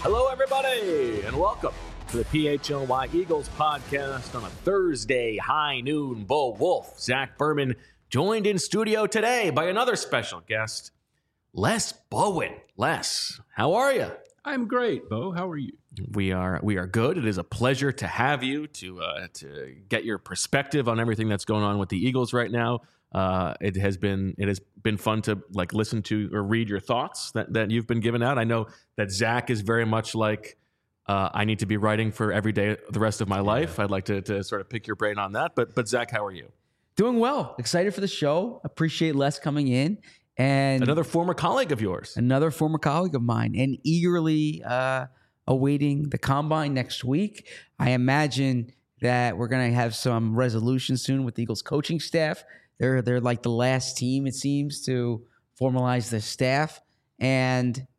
Hello, everybody, and welcome to the PHLY Eagles podcast on a Thursday high noon. Bo Wolf, Zach Berman, joined in studio today by another special guest, Les Bowen. Les, how are you? I'm great, Bo. How are you? We are good. It is a pleasure to have you to get your perspective on everything that's going on with the Eagles right now. It has been fun to listen to or read your thoughts that you've been giving out. I know that Zach is very much like I need to be writing for every day the rest of my life. I'd like to sort of pick your brain on that. But Zach, how are you? Doing well. Excited for the show. Appreciate Les coming in. And another former colleague of yours. Another former colleague of mine. And eagerly awaiting the combine next week. I imagine that we're going to have some resolution soon with the Eagles coaching staff. They're like the last team, it seems, to formalize the staff. And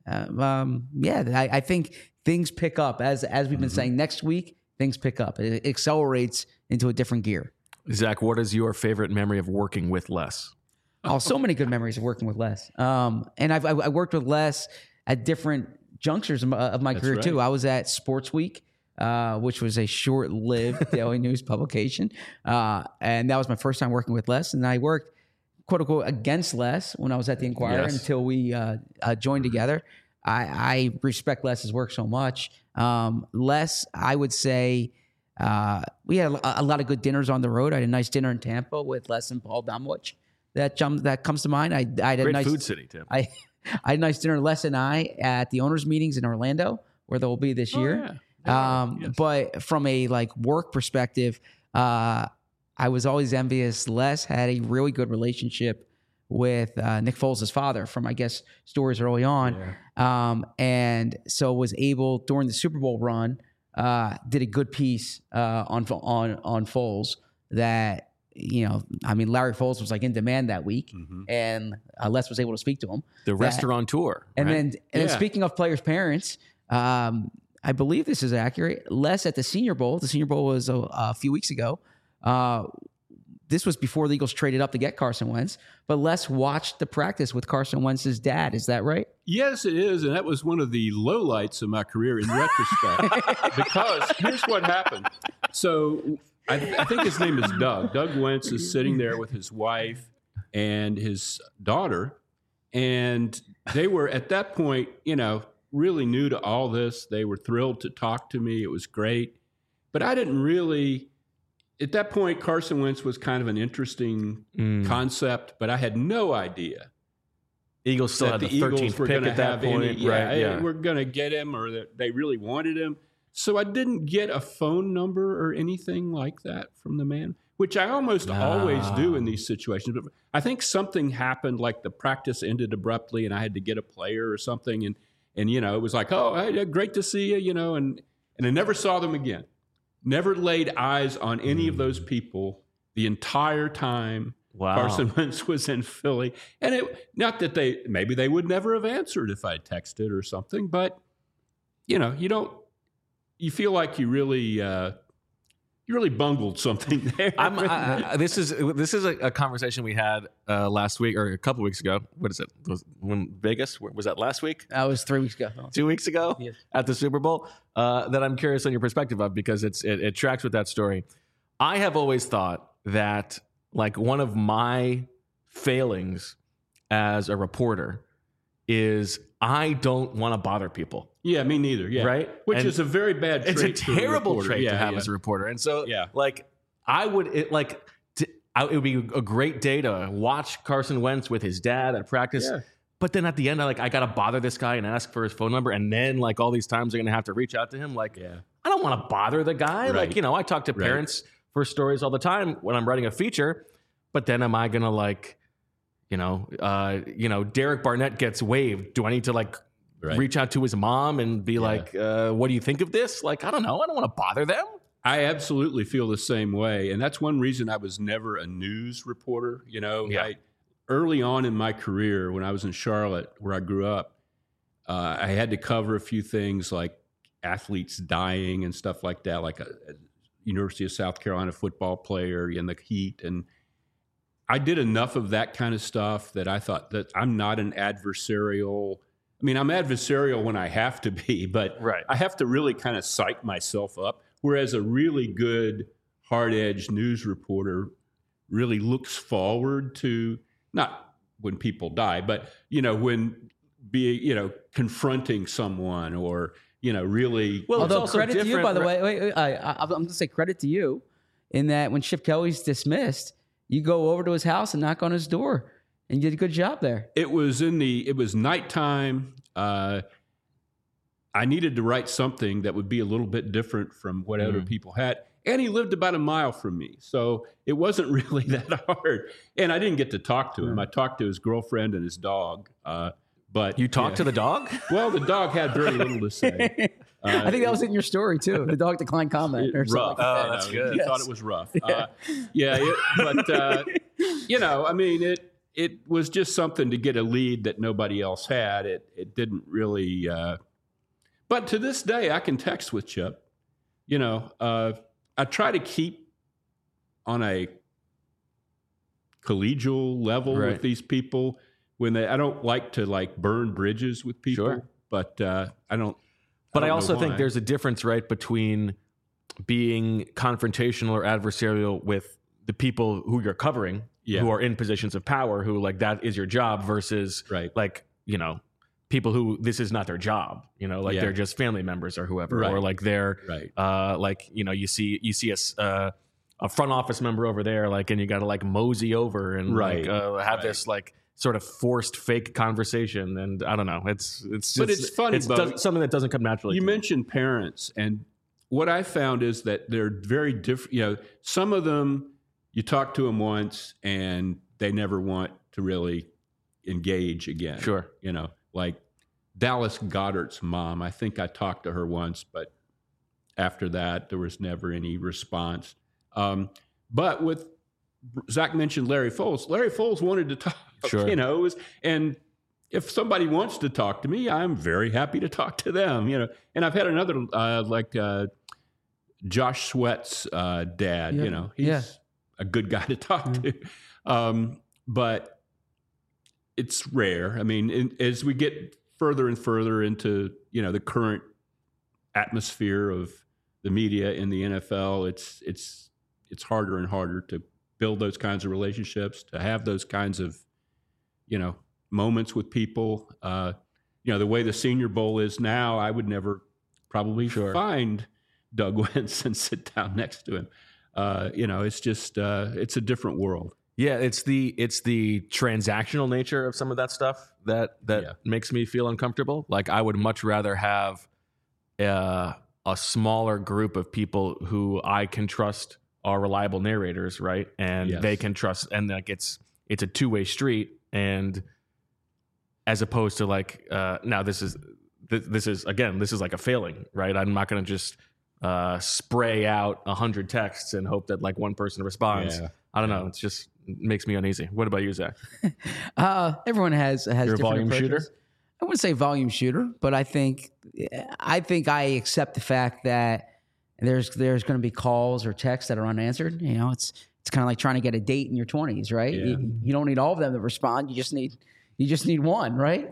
I think things pick up. As we've been saying, next week, things pick up. It accelerates into a different gear. Zach, what is your favorite memory of working with Les? Oh, so many good memories of working with Les. And I worked with Les at different junctures of my career, too. I was at Sports Week, which was a short-lived daily news publication. And that was my first time working with Les. And I worked, quote-unquote, against Les when I was at the Inquirer until we joined together. I respect Les's work so much. Les, I would say, we had a lot of good dinners on the road. I had a nice dinner in Tampa with Les and Paul Domowitch. That comes to mind. I had Great a nice food city, Tim. I had a nice dinner, Les and I, at the owners' meetings in Orlando, where they'll be this year. Yes. But from a work perspective, I was always envious. Les had a really good relationship with Nick Foles' father from, I guess, stories early on. Yeah. And so was able, during the Super Bowl run, did a good piece on Foles that, Larry Foles was in demand that week, and Les was able to speak to him. The restaurateur. And then speaking of players' parents, I believe this is accurate. Les at the Senior Bowl was a few weeks ago. This was before the Eagles traded up to get Carson Wentz, but Les watched the practice with Carson Wentz's dad. Is that right? Yes, it is. And that was one of the lowlights of my career in retrospect, because here's what happened. So I think his name is Doug. Doug Wentz is sitting there with his wife and his daughter. And they were, at that point, really new to all this. They were thrilled to talk to me. It was great. But I didn't really, at that point, Carson Wentz was kind of an interesting concept, but I had no idea. Eagles still had the 13th pick at that point. We're going to get him, or that they really wanted him. So I didn't get a phone number or anything like that from the man, which I almost always do in these situations. But I think something happened, like the practice ended abruptly and I had to get a player or something. And it was like, oh, hey, great to see you, and I never saw them again. Never laid eyes on any of those people the entire time Carson Wentz was in Philly. And not that maybe they would never have answered if I texted or something, but you feel like you really bungled something there. This is a conversation we had last week or a couple weeks ago. What is it? When Vegas? Was that last week? That was 3 weeks ago. 2 weeks ago? Yes. At the Super Bowl? That I'm curious on your perspective of, because it tracks with that story. I have always thought that one of my failings as a reporter is I don't want to bother people. Yeah, me neither. Yeah, right. Which is a very bad trait. It's a terrible trait to have as a reporter. And so, I would it would be a great day to watch Carson Wentz with his dad at practice. Yeah. But then at the end, I got to bother this guy and ask for his phone number, and then all these times I'm going to have to reach out to him. I don't want to bother the guy. Right. I talk to parents for stories all the time when I'm writing a feature. But then am I going to Derek Barnett gets waived. Do I need to reach out to his mom and be what do you think of this? I don't know. I don't want to bother them. I absolutely feel the same way. And that's one reason I was never a news reporter. Early on in my career, when I was in Charlotte, where I grew up, I had to cover a few things like athletes dying and stuff like that, like a University of South Carolina football player in the heat. And I did enough of that kind of stuff that I thought that I'm not an adversarial I mean, I'm adversarial when I have to be, but Right. I have to really kind of psych myself up. Whereas a really good, hard-edged news reporter really looks forward to, not when people die, but, when confronting someone or, really. Well, it's Although also credit to you, different, by the right? way, I'm going to say credit to you in that when Chip Kelly's dismissed, you go over to his house and knock on his door, and you did a good job there. It was nighttime. I needed to write something that would be a little bit different from what other people had. And he lived about a mile from me. So it wasn't really that hard. And I didn't get to talk to him. I talked to his girlfriend and his dog. But You talked to the dog? Well, the dog had very little to say. I think that was in your story too. The dog declined comment or something. Rough. Like that. Oh, that's He good. thought it was rough. I mean, it was just something to get a lead that nobody else had. It didn't really. But to this day, I can text with Chip. I try to keep on a collegial level Right. with these people. I don't like to burn bridges with people, Sure. but I don't. But I don't also know think why. there's a difference, right, between being confrontational or adversarial with the people who you're covering, Yeah. who are in positions of power, who that is your job, versus Right. people who this is not their job, Yeah. they're just family members or whoever, Right. or they're Right. you see a front office member over there, and you got to mosey over and Right. have this sort of forced fake conversation, and I don't know, it's But it's funny, Bo. something that doesn't come naturally. You to me. mentioned parents, and what I found is that they're very different. Some of them, you talk to them once and they never want to really engage again. Sure. Like Dallas Goedert's mom. I think I talked to her once, but after that, there was never any response. But with Zach mentioned Larry Foles. Larry Foles wanted to talk. Sure. And if somebody wants to talk to me, I'm very happy to talk to them. And I've had another Josh Sweat's dad. Yeah. He's a good guy to talk to. But it's rare. I mean, as we get further and further into the current atmosphere of the media in the NFL, it's harder and harder to build those kinds of relationships, to have those kinds of moments with people. The way the Senior Bowl is now, I would never probably find Doug Wentz and sit down next to him. It's just it's a different world. Yeah, it's the transactional nature of some of that stuff that makes me feel uncomfortable. I would much rather have a smaller group of people who I can trust are reliable narrators, right? And Yes. they can trust, and it's a two-way street. And as opposed to now this is like a failing, right? I'm not going to just spray out 100 texts and hope that one person responds. Yeah. I don't know. It's just makes me uneasy. What about you, Zach? Everyone has You're a different volume approaches. shooter? I wouldn't say volume shooter, but I think I accept the fact that there's going to be calls or texts that are unanswered. It's kind of like trying to get a date in your 20s, right? Yeah. You don't need all of them to respond. You just need one, right?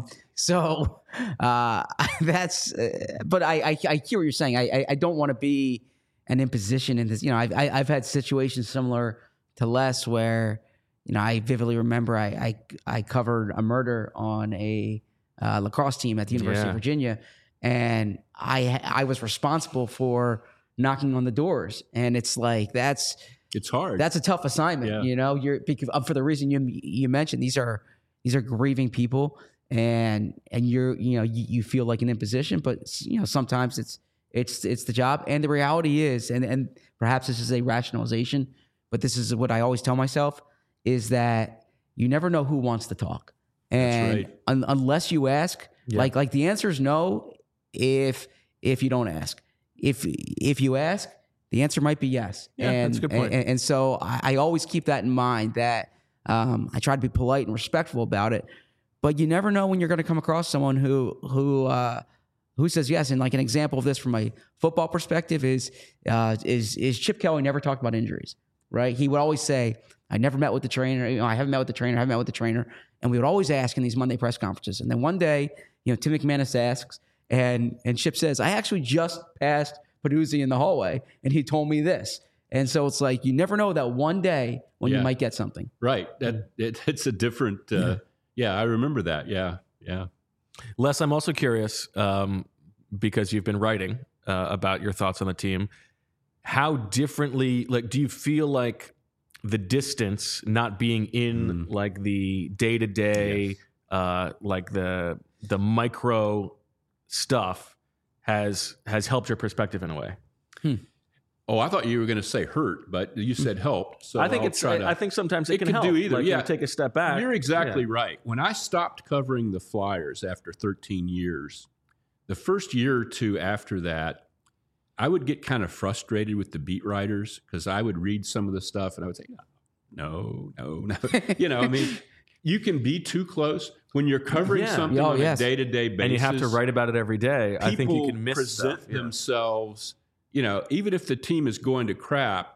So that's. But I hear what you're saying. I don't want to be an imposition in this. I've had situations similar to Les where I vividly remember I covered a murder on a lacrosse team at the University of Virginia, and I was responsible for knocking on the doors, and it's It's hard. that's a tough assignment. Yeah. You're because for the reason you mentioned, these are grieving people, and you feel like an imposition, but sometimes it's the job, and the reality is, and perhaps this is a rationalization, but this is what I always tell myself, is that you never know who wants to talk, and right. unless you ask, like the answer is no. If you don't ask, if you ask, the answer might be yes. Yeah, and, that's a good point. And so I always keep that in mind, that I try to be polite and respectful about it, but you never know when you're going to come across someone who says yes. And like an example of this from a football perspective is Chip Kelly never talked about injuries, right? He would always say, I never met with the trainer. I haven't met with the trainer. And we would always ask in these Monday press conferences. And then one day, Tim McManus asks, and Chip says, I actually just passed Peduzzi in the hallway, and he told me this. And so it's like you never know that one day when you might get something. Right. It's a different. I remember that. Yeah. Les, I'm also curious because you've been writing about your thoughts on the team. How differently, do you feel like the distance, not being in like the day-to-day, like the micro stuff has helped your perspective in a way? Oh, I thought you were going to say hurt, but you said helped. So I think I think sometimes it can help. Do either. You take a step back. You're exactly right. When I stopped covering the Flyers after 13 years, the first year or two after that, I would get kind of frustrated with the beat writers because I would read some of the stuff and I would say, no. I mean, you can be too close when you're covering something on a day-to-day basis. And you have to write about it every day. I think you can miss present stuff. themselves, even if the team is going to crap,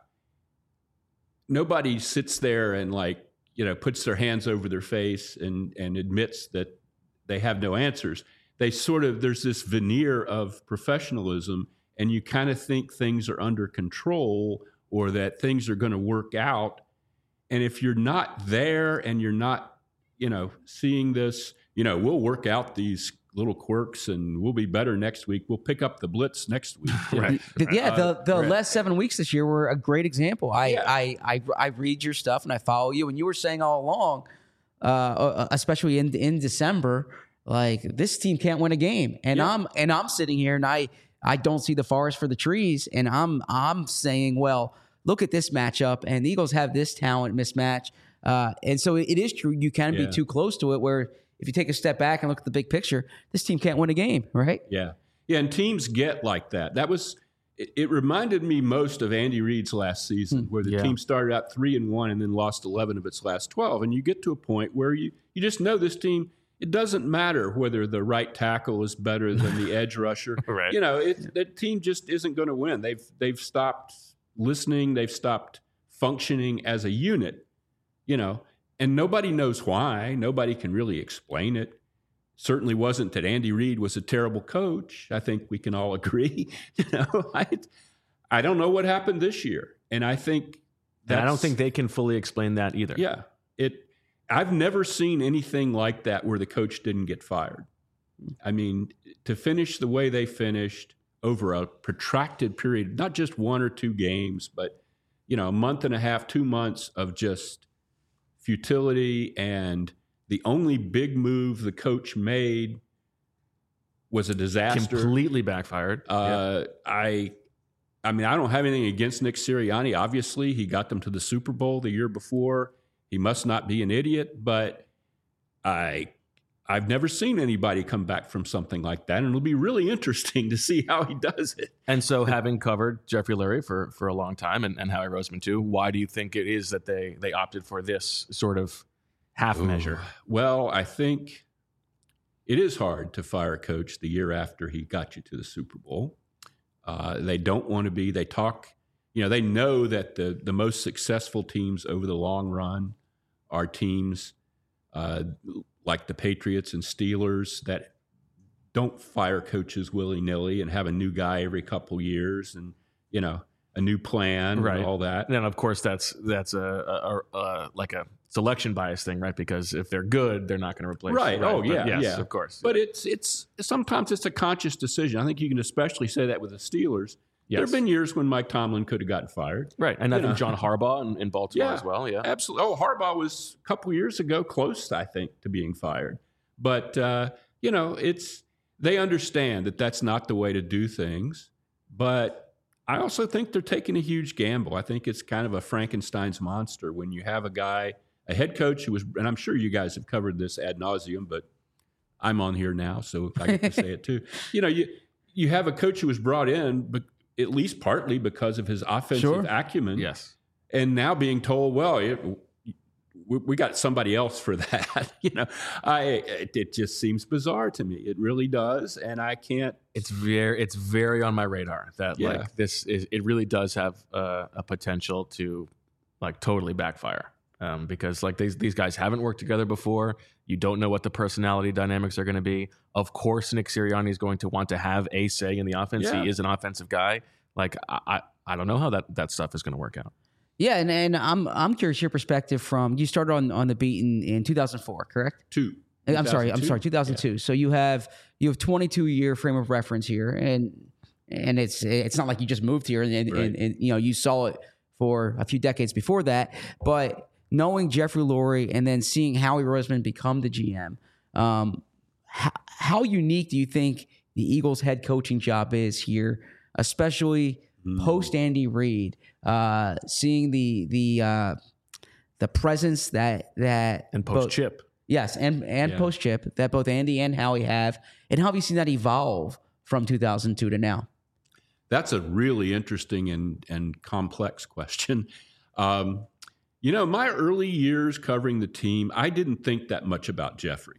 nobody sits there and puts their hands over their face and admits that they have no answers. There's this veneer of professionalism, and you kind of think things are under control or that things are going to work out. And if you're not there and you're not, seeing this, we'll work out these little quirks and we'll be better next week. We'll pick up the blitz next week. Right. The last 7 weeks this year were a great example. I read your stuff and I follow you, and you were saying all along, especially in December, like this team can't win a game. And I'm sitting here and I don't see the forest for the trees. And I'm saying, well, look at this matchup, and the Eagles have this talent mismatch. And so it is true. You can be too close to it, where if you take a step back and look at the big picture, this team can't win a game, right? Yeah. And teams get like that. It reminded me most of Andy Reid's last season, where the team started out 3-1 and then lost 11 of its last 12. And you get to a point where you just know this team, it doesn't matter whether the right tackle is better than the edge rusher. Right. The team just isn't going to win. They've stopped listening. They've stopped functioning as a unit, and nobody knows why. Nobody can really explain it. Certainly wasn't that Andy Reid was a terrible coach. I think we can all agree. I don't know what happened this year. And I think I don't think they can fully explain that either. Yeah. I've never seen anything like that where the coach didn't get fired. I mean, to finish the way they finished over a protracted period, not just 1 or 2 games, but, a month and a half, 2 months of just futility. And the only big move the coach made was a disaster. Completely backfired. I mean, I don't have anything against Nick Sirianni. Obviously, he got them to the Super Bowl the year before. He must not be an idiot, but I've never seen anybody come back from something like that, and it'll be really interesting to see how he does it. And so, having covered Jeffrey Lurie for a long time, and Howie Roseman too, why do you think it is that they opted for this sort of half measure? Well, I think it is hard to fire a coach the year after he got you to the Super Bowl. They don't want to be. They talk. They know that the most successful teams over the long run are teams like the Patriots and Steelers that don't fire coaches willy-nilly and have a new guy every couple years and, a new plan and all that. And then, of course, that's a like a selection bias thing, right? Because if they're good, they're not going to replace. Right. Oh, yeah. Yes, yeah. of course. But it's sometimes it's a conscious decision. I think you can especially say that with the Steelers. Yes. There have been years when Mike Tomlin could have gotten fired. Right. And I think John Harbaugh in Baltimore as well. Yeah. Absolutely. Oh, Harbaugh was a couple years ago close, I think, to being fired. But, they understand that that's not the way to do things. But I also think they're taking a huge gamble. I think it's kind of a Frankenstein's monster when you have a head coach who was, and I'm sure you guys have covered this ad nauseum, but I'm on here now, so I get to say it too. You have a coach who was brought in, but at least partly because of his offensive acumen. Yes. And now being told, well, we got somebody else for that. It just seems bizarre to me. It really does. And I can't. It's very on my radar that it really does have a potential to totally backfire. because like these guys haven't worked together before. You don't know what the personality dynamics are going to be. Of course, Nick Sirianni is going to want to have a say in the offense. Yeah. He is an offensive guy. Like I don't know how that stuff is going to work out. Yeah, and I'm curious your perspective from you started on the beat in 2004, correct? 2002. Yeah. So you have 22-year frame of reference here, and it's not like you just moved here and you saw it for a few decades before that. But knowing Jeffrey Lurie and then seeing Howie Roseman become the GM, how unique do you think the Eagles head coaching job is here, especially post Andy Reid? Seeing the presence that and post Chip. Yes, and post Chip that both Andy and Howie have, and how have you seen that evolve from 2002 to now? That's a really interesting and complex question. My early years covering the team, I didn't think that much about Jeffrey.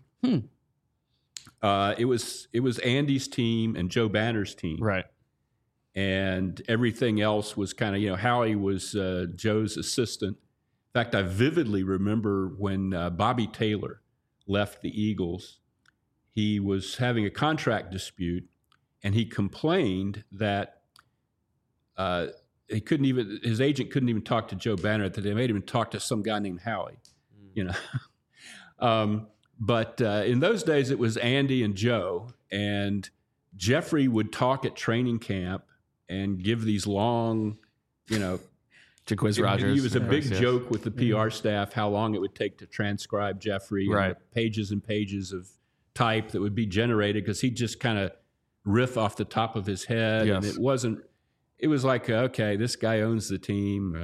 It was Andy's team and Joe Banner's team, right? And everything else was kind of, Howie was Joe's assistant. In fact, I vividly remember when Bobby Taylor left the Eagles, he was having a contract dispute, and he complained that his agent couldn't even talk to Joe Banner, that they made him talk to some guy named Howie, But in those days, it was Andy and Joe, and Jeffrey would talk at training camp and give these long, Jaquiz Rogers. He was a big joke with the PR staff, how long it would take to transcribe Jeffrey, right? And pages and pages of type that would be generated because he'd just kind of riff off the top of his head. Yes. And it was like, okay, this guy owns the team.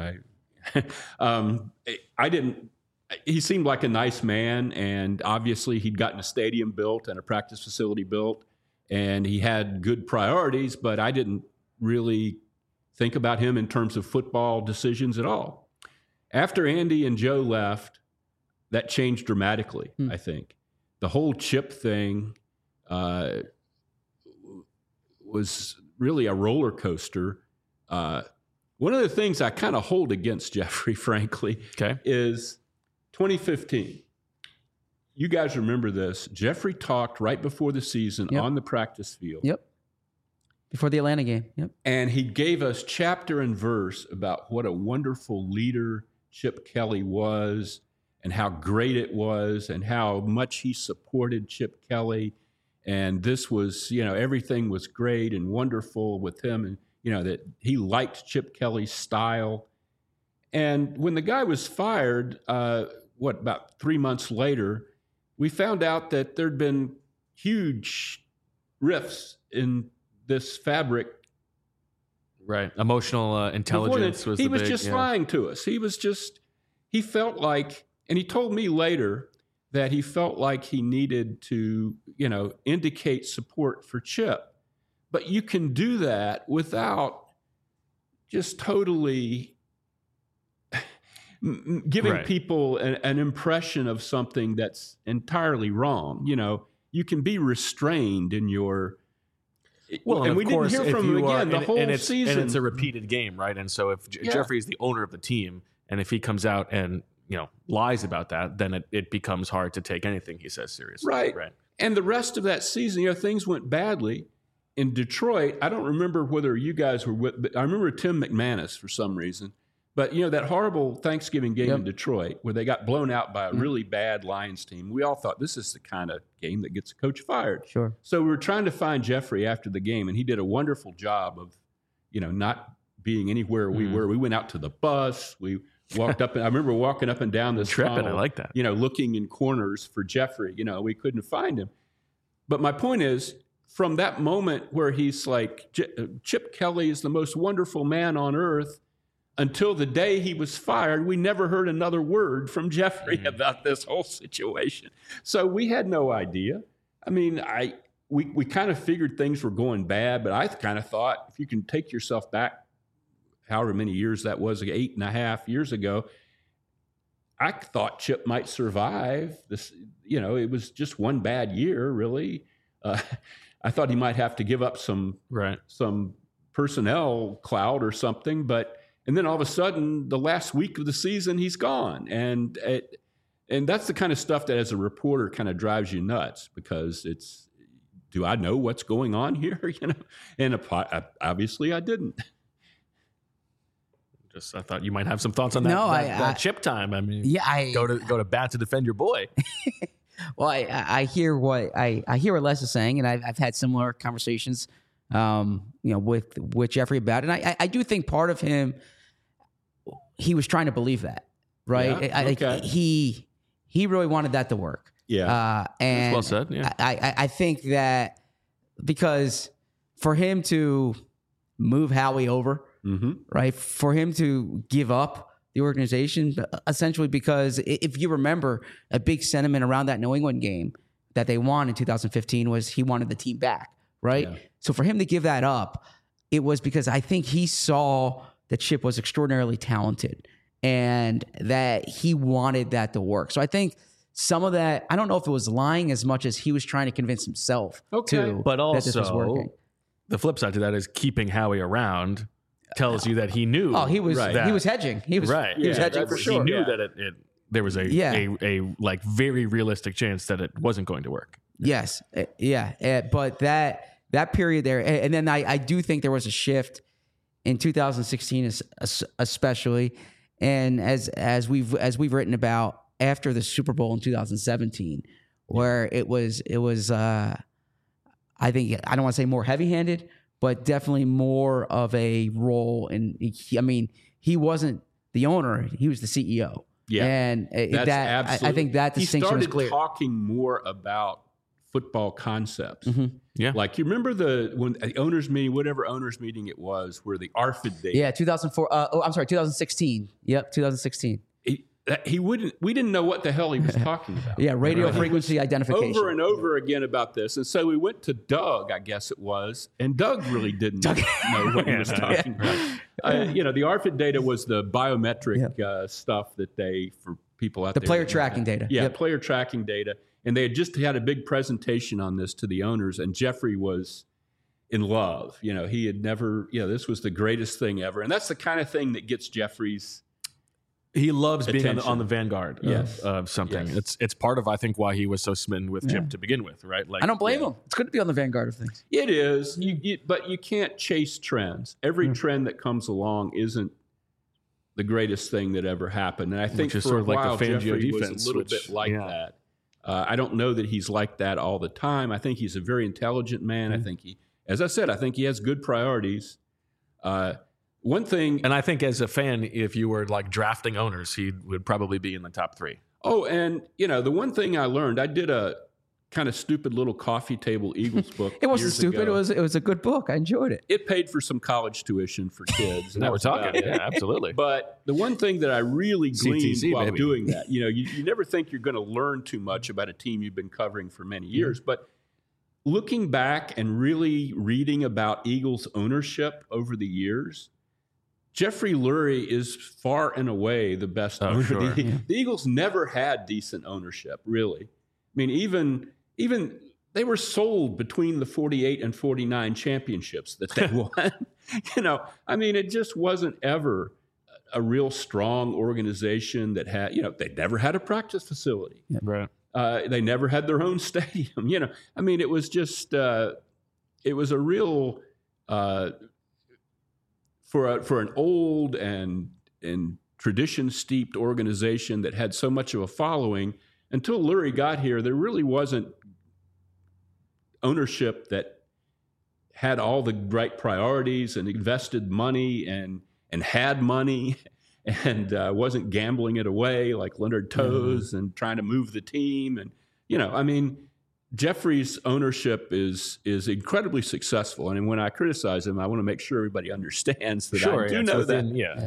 He seemed like a nice man, and obviously he'd gotten a stadium built and a practice facility built, and he had good priorities, but I didn't really think about him in terms of football decisions at all. After Andy and Joe left, that changed dramatically, I think. The whole Chip thing was really a roller coaster. One of the things I kind of hold against Jeffrey, frankly, is 2015. You guys remember this. Jeffrey talked right before the season on the practice field. Yep. Before the Atlanta game. Yep. And he gave us chapter and verse about what a wonderful leader Chip Kelly was and how great it was and how much he supported Chip Kelly. And this was, everything was great and wonderful with him, and, that he liked Chip Kelly's style. And when the guy was fired, about 3 months later, we found out that there'd been huge rifts in this fabric. Right. Emotional intelligence was the big. He was just lying to us. He felt like, and he told me later that he felt like he needed to, indicate support for Chip. But you can do that without just totally giving people an impression of something that's entirely wrong. You can be restrained in your. Well, and we didn't hear from him again the whole season. And it's a repeated game, right? And so if Jeffrey is the owner of the team, and if he comes out and lies about that, then it becomes hard to take anything he says seriously. Right. And the rest of that season, things went badly. In Detroit, I don't remember whether you guys were with, but I remember Tim McManus for some reason. But, that horrible Thanksgiving game in Detroit where they got blown out by a really bad Lions team, we all thought this is the kind of game that gets a coach fired. Sure. So we were trying to find Jeffrey after the game, and he did a wonderful job of, not being anywhere we were. We went out to the bus. We walked up. I remember walking up and down this tunnel, I like that. Looking in corners for Jeffrey. We couldn't find him. But my point is, from that moment where he's like, Chip Kelly is the most wonderful man on earth, until the day he was fired, we never heard another word from Jeffrey about this whole situation. So we had no idea. I mean, we kind of figured things were going bad, but I kind of thought if you can take yourself back however many years that was, 8.5 years ago, I thought Chip might survive this. It was just one bad year, really. I thought he might have to give up some personnel clout or something, but And then all of a sudden, the last week of the season, he's gone. And that's the kind of stuff that as a reporter kind of drives you nuts, because it's, do I know what's going on here? And obviously I didn't. I thought you might have some thoughts on that. No, that Chip time. I mean, go to bat to defend your boy. Well, I hear what Les is saying, and I've had similar conversations, with Jeffrey about it. And I do think part of him, he was trying to believe that, right? Yeah, okay. He really wanted that to work. Yeah, and well said. Yeah. I think that because for him to move Howie over, right, for him to give up the organization, essentially, because if you remember, a big sentiment around that New England game that they won in 2015 was he wanted the team back, right? Yeah. So for him to give that up, it was because I think he saw that Chip was extraordinarily talented and that he wanted that to work. So I think some of that, I don't know if it was lying as much as he was trying to convince himself too, but also, that this was working. The flip side to that is keeping Howie around tells you that he knew. Oh, he was hedging. He was right. He was hedging for sure. He knew that there was a like very realistic chance that it wasn't going to work. Yes, but that period there, and then I do think there was a shift in 2016, especially, and as we've written about after the Super Bowl in 2017, where it was I think, I don't want to say more heavy-handed, but definitely more of a role. And he wasn't the owner; he was the CEO. Yeah, and I think that distinction was clear. He started talking more about football concepts. Yeah, like you remember when the owners meeting, whatever owners meeting it was, where the ARFID data. Yeah, 2004. 2016. Yep, 2016. We didn't know what the hell he was talking about. Yeah, radio frequency identification. Over and over again about this. And so we went to Doug, I guess it was, and Doug really didn't know what he was talking about. The ARFID data was the biometric stuff that for people out there. The player tracking data. Yeah, player tracking data. And they had just had a big presentation on this to the owners, and Jeffrey was in love. He had never, this was the greatest thing ever. And that's the kind of thing that gets Jeffrey's He loves attention. being on the vanguard of something. Yes. It's part of, I think, why he was so smitten with Chip to begin with, right? Like, I don't blame him. It's good to be on the vanguard of things. It is, but you can't chase trends. Every trend that comes along isn't the greatest thing that ever happened. And I think for a while, Jeffrey was a little bit like that. I don't know that he's like that all the time. I think he's a very intelligent man. I think as I said, I think he has good priorities. One thing, and I think as a fan, if you were like drafting owners, he would probably be in the top 3. Oh, and the one thing I learned, I did a kind of stupid little coffee table Eagles book. It wasn't stupid. Ago. It was a good book. I enjoyed it. It paid for some college tuition for kids. Now we're talking. Yeah, absolutely. But the one thing that I really gleaned while doing that, you never think you're going to learn too much about a team you've been covering for many years, but looking back and really reading about Eagles ownership over the years, Jeffrey Lurie is far and away the best owner. Sure. The Eagles never had decent ownership, really. I mean, even they were sold between the 48 and 49 championships that they won. It just wasn't ever a real strong organization that had, they never had a practice facility. Yeah. Right. They never had their own stadium. It was just, it was a real, for an old and tradition-steeped organization that had so much of a following, until Lurie got here, there really wasn't ownership that had all the right priorities and invested money and had money and wasn't gambling it away like Leonard Toews and trying to move the team. And, Jeffrey's ownership is incredibly successful. And when I criticize him, I want to make sure everybody understands that I do know that.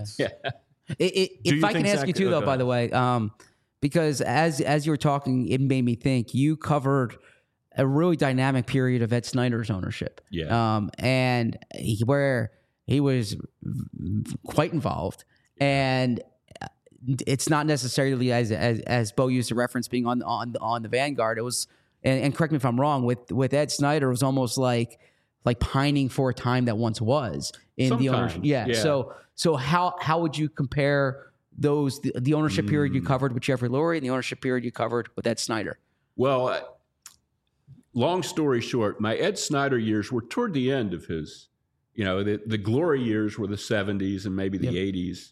If I can ask you too, though, by the way, because as you were talking, it made me think you covered a really dynamic period of Ed Snyder's ownership. And where he was quite involved. And it's not necessarily as Bo used to reference being on the vanguard. It was, and correct me if I'm wrong, with Ed Snyder, it was almost like like pining for a time that once was in the ownership. Sometimes, yeah. So how would you compare those the ownership period you covered with Jeffrey Lurie and the ownership period you covered with Ed Snyder? Well, long story short, my Ed Snyder years were toward the end of his, the glory years were the 70s and maybe the 80s.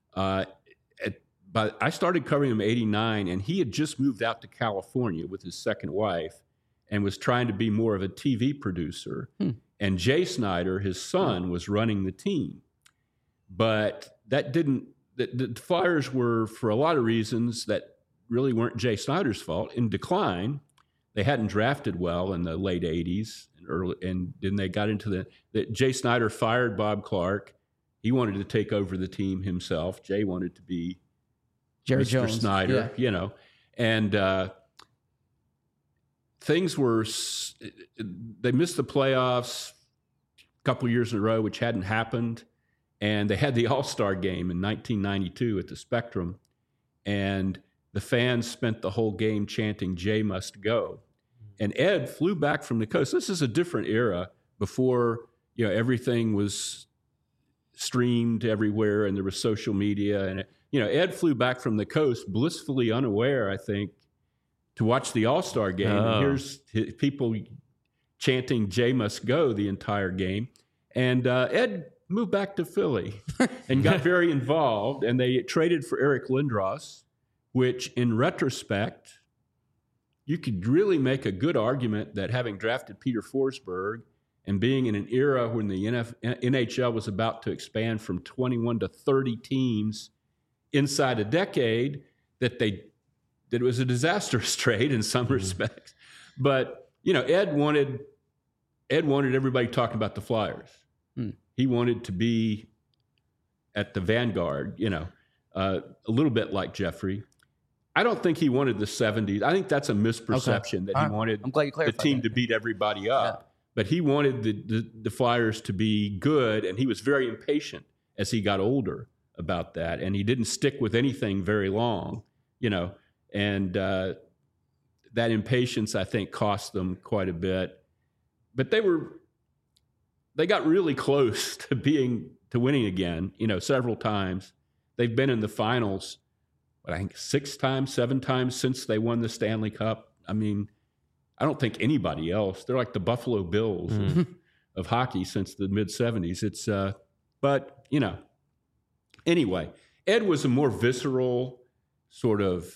But I started covering him in 89, and he had just moved out to California with his second wife and was trying to be more of a TV producer. And Jay Snyder, his son, was running the team. But that didn't, the Flyers were, for a lot of reasons that really weren't Jay Snyder's fault, in decline. They hadn't drafted well in the late 80s and then they got into Jay Snyder fired Bob Clark. He wanted to take over the team himself. Jay wanted to be Jerry Mr. Jones. Snyder, and things were, they missed the playoffs a couple years in a row, which hadn't happened. And they had the All-Star game in 1992 at the Spectrum. And the fans spent the whole game chanting, "Jay must go." And Ed flew back from the coast. This is a different era before, everything was streamed everywhere and there was social media. And, Ed flew back from the coast blissfully unaware, I think, to watch the All-Star game. And here's people chanting "Jay must go" the entire game. And Ed moved back to Philly and got very involved. And they traded for Eric Lindros, which in retrospect, you could really make a good argument that having drafted Peter Forsberg and being in an era when the NHL was about to expand from 21 to 30 teams inside a decade, that it was a disastrous trade in some respects. But, Ed wanted everybody talking about the Flyers. He wanted to be at the vanguard, a little bit like Jeffrey. I don't think he wanted the 70s. I think that's a misperception that he wanted the team to beat everybody up. Yeah. But he wanted the Flyers to be good, and he was very impatient as he got older about that. And he didn't stick with anything very long, and that impatience, I think, cost them quite a bit. But they got really close to winning again, several times. They've been in the finals, I think 6 times, 7 times since they won the Stanley Cup. I mean, I don't think anybody else. They're like the Buffalo Bills of hockey since the mid-'70s. It's, but, anyway, Ed was a more visceral sort of,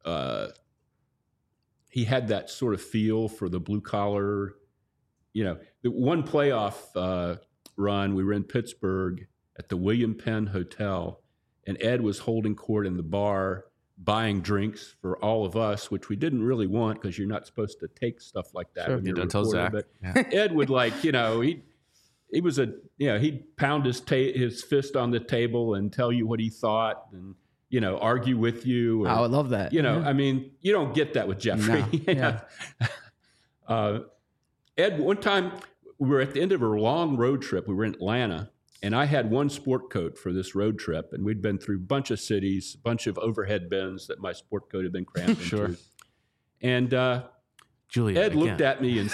he had that sort of feel for the blue collar, the one playoff run, we were in Pittsburgh at the William Penn Hotel, and Ed was holding court in the bar, buying drinks for all of us, which we didn't really want because you're not supposed to take stuff like that. Sure, when you're don't tell Zach. But Ed would he'd pound his fist on the table and tell you what he thought and, argue with you. I would love that. I mean, you don't get that with Jeffrey. No. Ed, one time we were at the end of a long road trip. We were in Atlanta. And I had one sport coat for this road trip, and we'd been through a bunch of cities, a bunch of overhead bins that my sport coat had been crammed into. And Julia, Ed looked at me and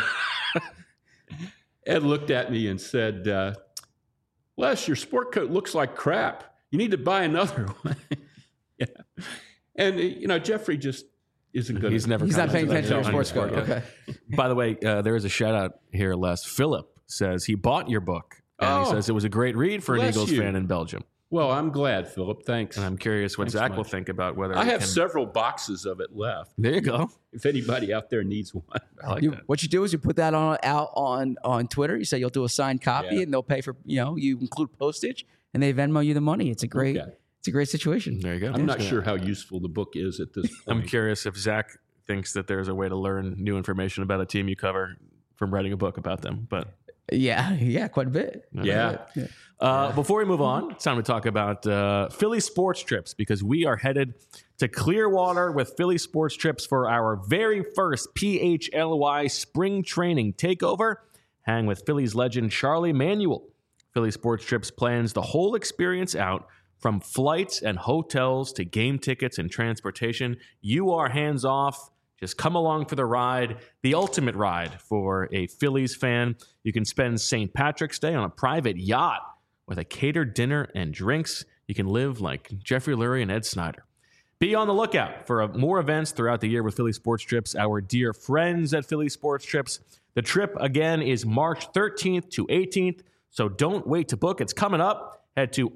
said, "Les, your sport coat looks like crap. You need to buy another one." Yeah. And, Jeffrey just isn't good. He's not paying attention to your sports coat. Okay. By the way, there is a shout out here, Les. Philip says he bought your book. And he says it was a great read for an Eagles fan in Belgium. Well, I'm glad, Philip. Thanks. And I'm curious what Zach will think about whether I have several boxes of it left. There you go. If anybody out there needs one. I like that. What you do is you put that out on Twitter. You say you'll do a signed copy, and they'll pay for, you include postage, and they Venmo you the money. It's a great situation. There you go. I'm not sure how useful the book is at this point. I'm curious if Zach thinks that there's a way to learn new information about a team you cover from writing a book about them, but... Yeah, quite a bit. Before we move on, it's time to talk about Philly Sports Trips, because we are headed to Clearwater with Philly Sports Trips for our very first PHLY spring training takeover. Hang with Phillies legend Charlie Manuel. Philly Sports Trips plans the whole experience out, from flights and hotels to game tickets and transportation. You are hands off Just come along for the ride, the ultimate ride for a Phillies fan. You can spend St. Patrick's Day on a private yacht with a catered dinner and drinks. You can live like Jeffrey Lurie and Ed Snyder. Be on the lookout for more events throughout the year with Philly Sports Trips, our dear friends at Philly Sports Trips. The trip, again, is March 13th to 18th, so don't wait to book. It's coming up. Head to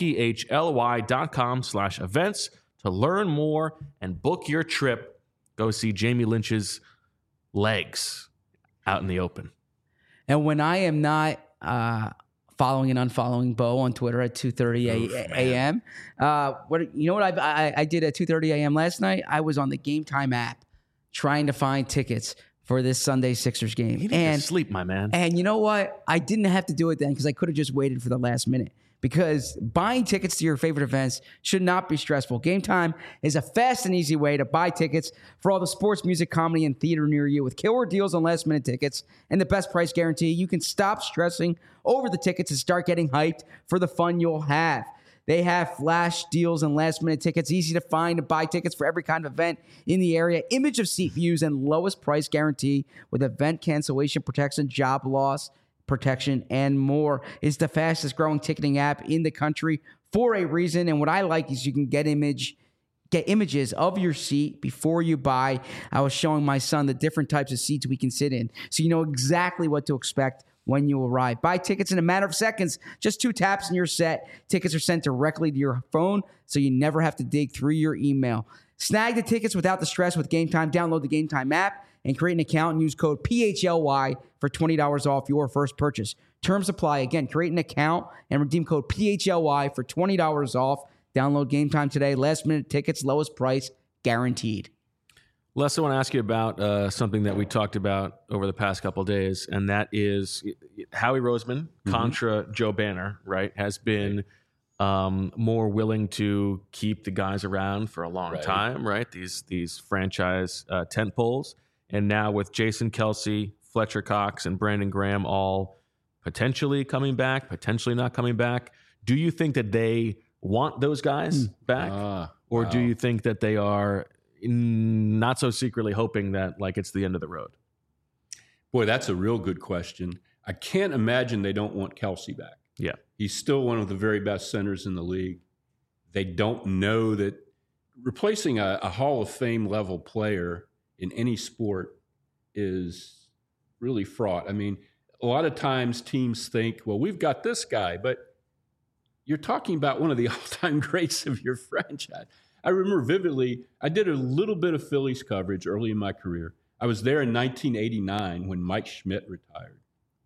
allphly.com/events to learn more and book your trip. Go see Jamie Lynch's legs out in the open. And when I am not following and unfollowing Bo on Twitter at 2:30 a.m., what I did at 2:30 a.m. last night? I was on the Game Time app trying to find tickets for this Sunday Sixers game. You need to sleep, my man. And you know what? I didn't have to do it then because I could have just waited for the last minute. Because buying tickets to your favorite events should not be stressful. Game Time is a fast and easy way to buy tickets for all the sports, music, comedy, and theater near you. With killer deals on last-minute tickets and the best price guarantee, you can stop stressing over the tickets and start getting hyped for the fun you'll have. They have flash deals and last-minute tickets, easy to find and buy tickets for every kind of event in the area, image of seat views, and lowest price guarantee with event cancellation protection, job loss protection, and more. It's the fastest growing ticketing app in the country for a reason. And what I like is you can get images of your seat before you buy. I was showing my son the different types of seats we can sit in, so you know exactly what to expect when you arrive. Buy tickets in a matter of seconds. Just 2 taps and you're set. Tickets are sent directly to your phone, so you never have to dig through your email. Snag the tickets without the stress with Game Time. Download the Game Time app and create an account and use code PHLY for $20 off your first purchase. Terms apply. Again, create an account and redeem code PHLY for $20 off. Download Game Time today. Last minute tickets, lowest price, guaranteed. Les, I want to ask you about something that we talked about over the past couple of days, and that is Howie Roseman, contra Joe Banner, right, has been more willing to keep the guys around for a long time, right? These franchise tent poles. And now with Jason Kelce, Fletcher Cox, and Brandon Graham all potentially coming back, potentially not coming back, do you think that they want those guys back? Or do you think that they are not so secretly hoping that like it's the end of the road? Boy, that's a real good question. I can't imagine they don't want Kelce back. Yeah. He's still one of the very best centers in the league. They don't know that replacing a Hall of Fame level player in any sport is really fraught. I mean, a lot of times teams think, well, we've got this guy, but you're talking about one of the all-time greats of your franchise. I remember vividly, I did a little bit of Phillies coverage early in my career. I was there in 1989 when Mike Schmidt retired.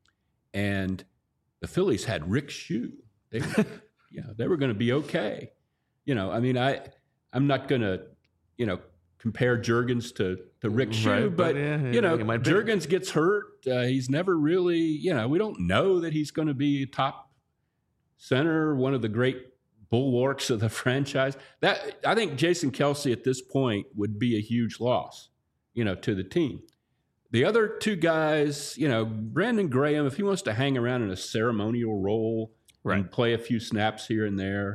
And the Phillies had Rick Shue. They were going to be okay. I mean, I'm not going to, compare Juergens to Rick Shue, but Juergens gets hurt. He's never really, we don't know that he's going to be top center, one of the great bulwarks of the franchise. That I think Jason Kelce at this point would be a huge loss, to the team. The other 2 guys, Brandon Graham, if he wants to hang around in a ceremonial role and play a few snaps here and there,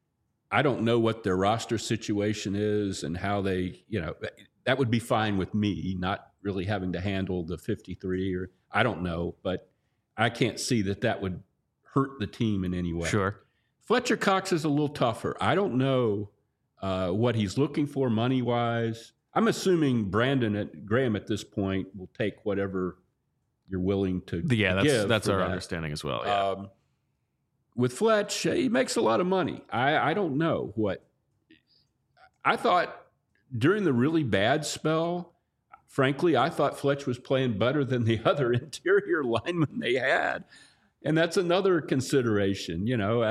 I don't know what their roster situation is and how they, that would be fine with me, not really having to handle the 53 or I don't know, but I can't see that would hurt the team in any way. Sure. Fletcher Cox is a little tougher. I don't know what he's looking for money-wise. I'm assuming Brandon Graham at this point will take whatever you're willing to give. That's our understanding as well. Yeah. With Fletch, he makes a lot of money. I don't know what. I thought during the really bad spell, frankly, I thought Fletch was playing better than the other interior linemen they had. And that's another consideration.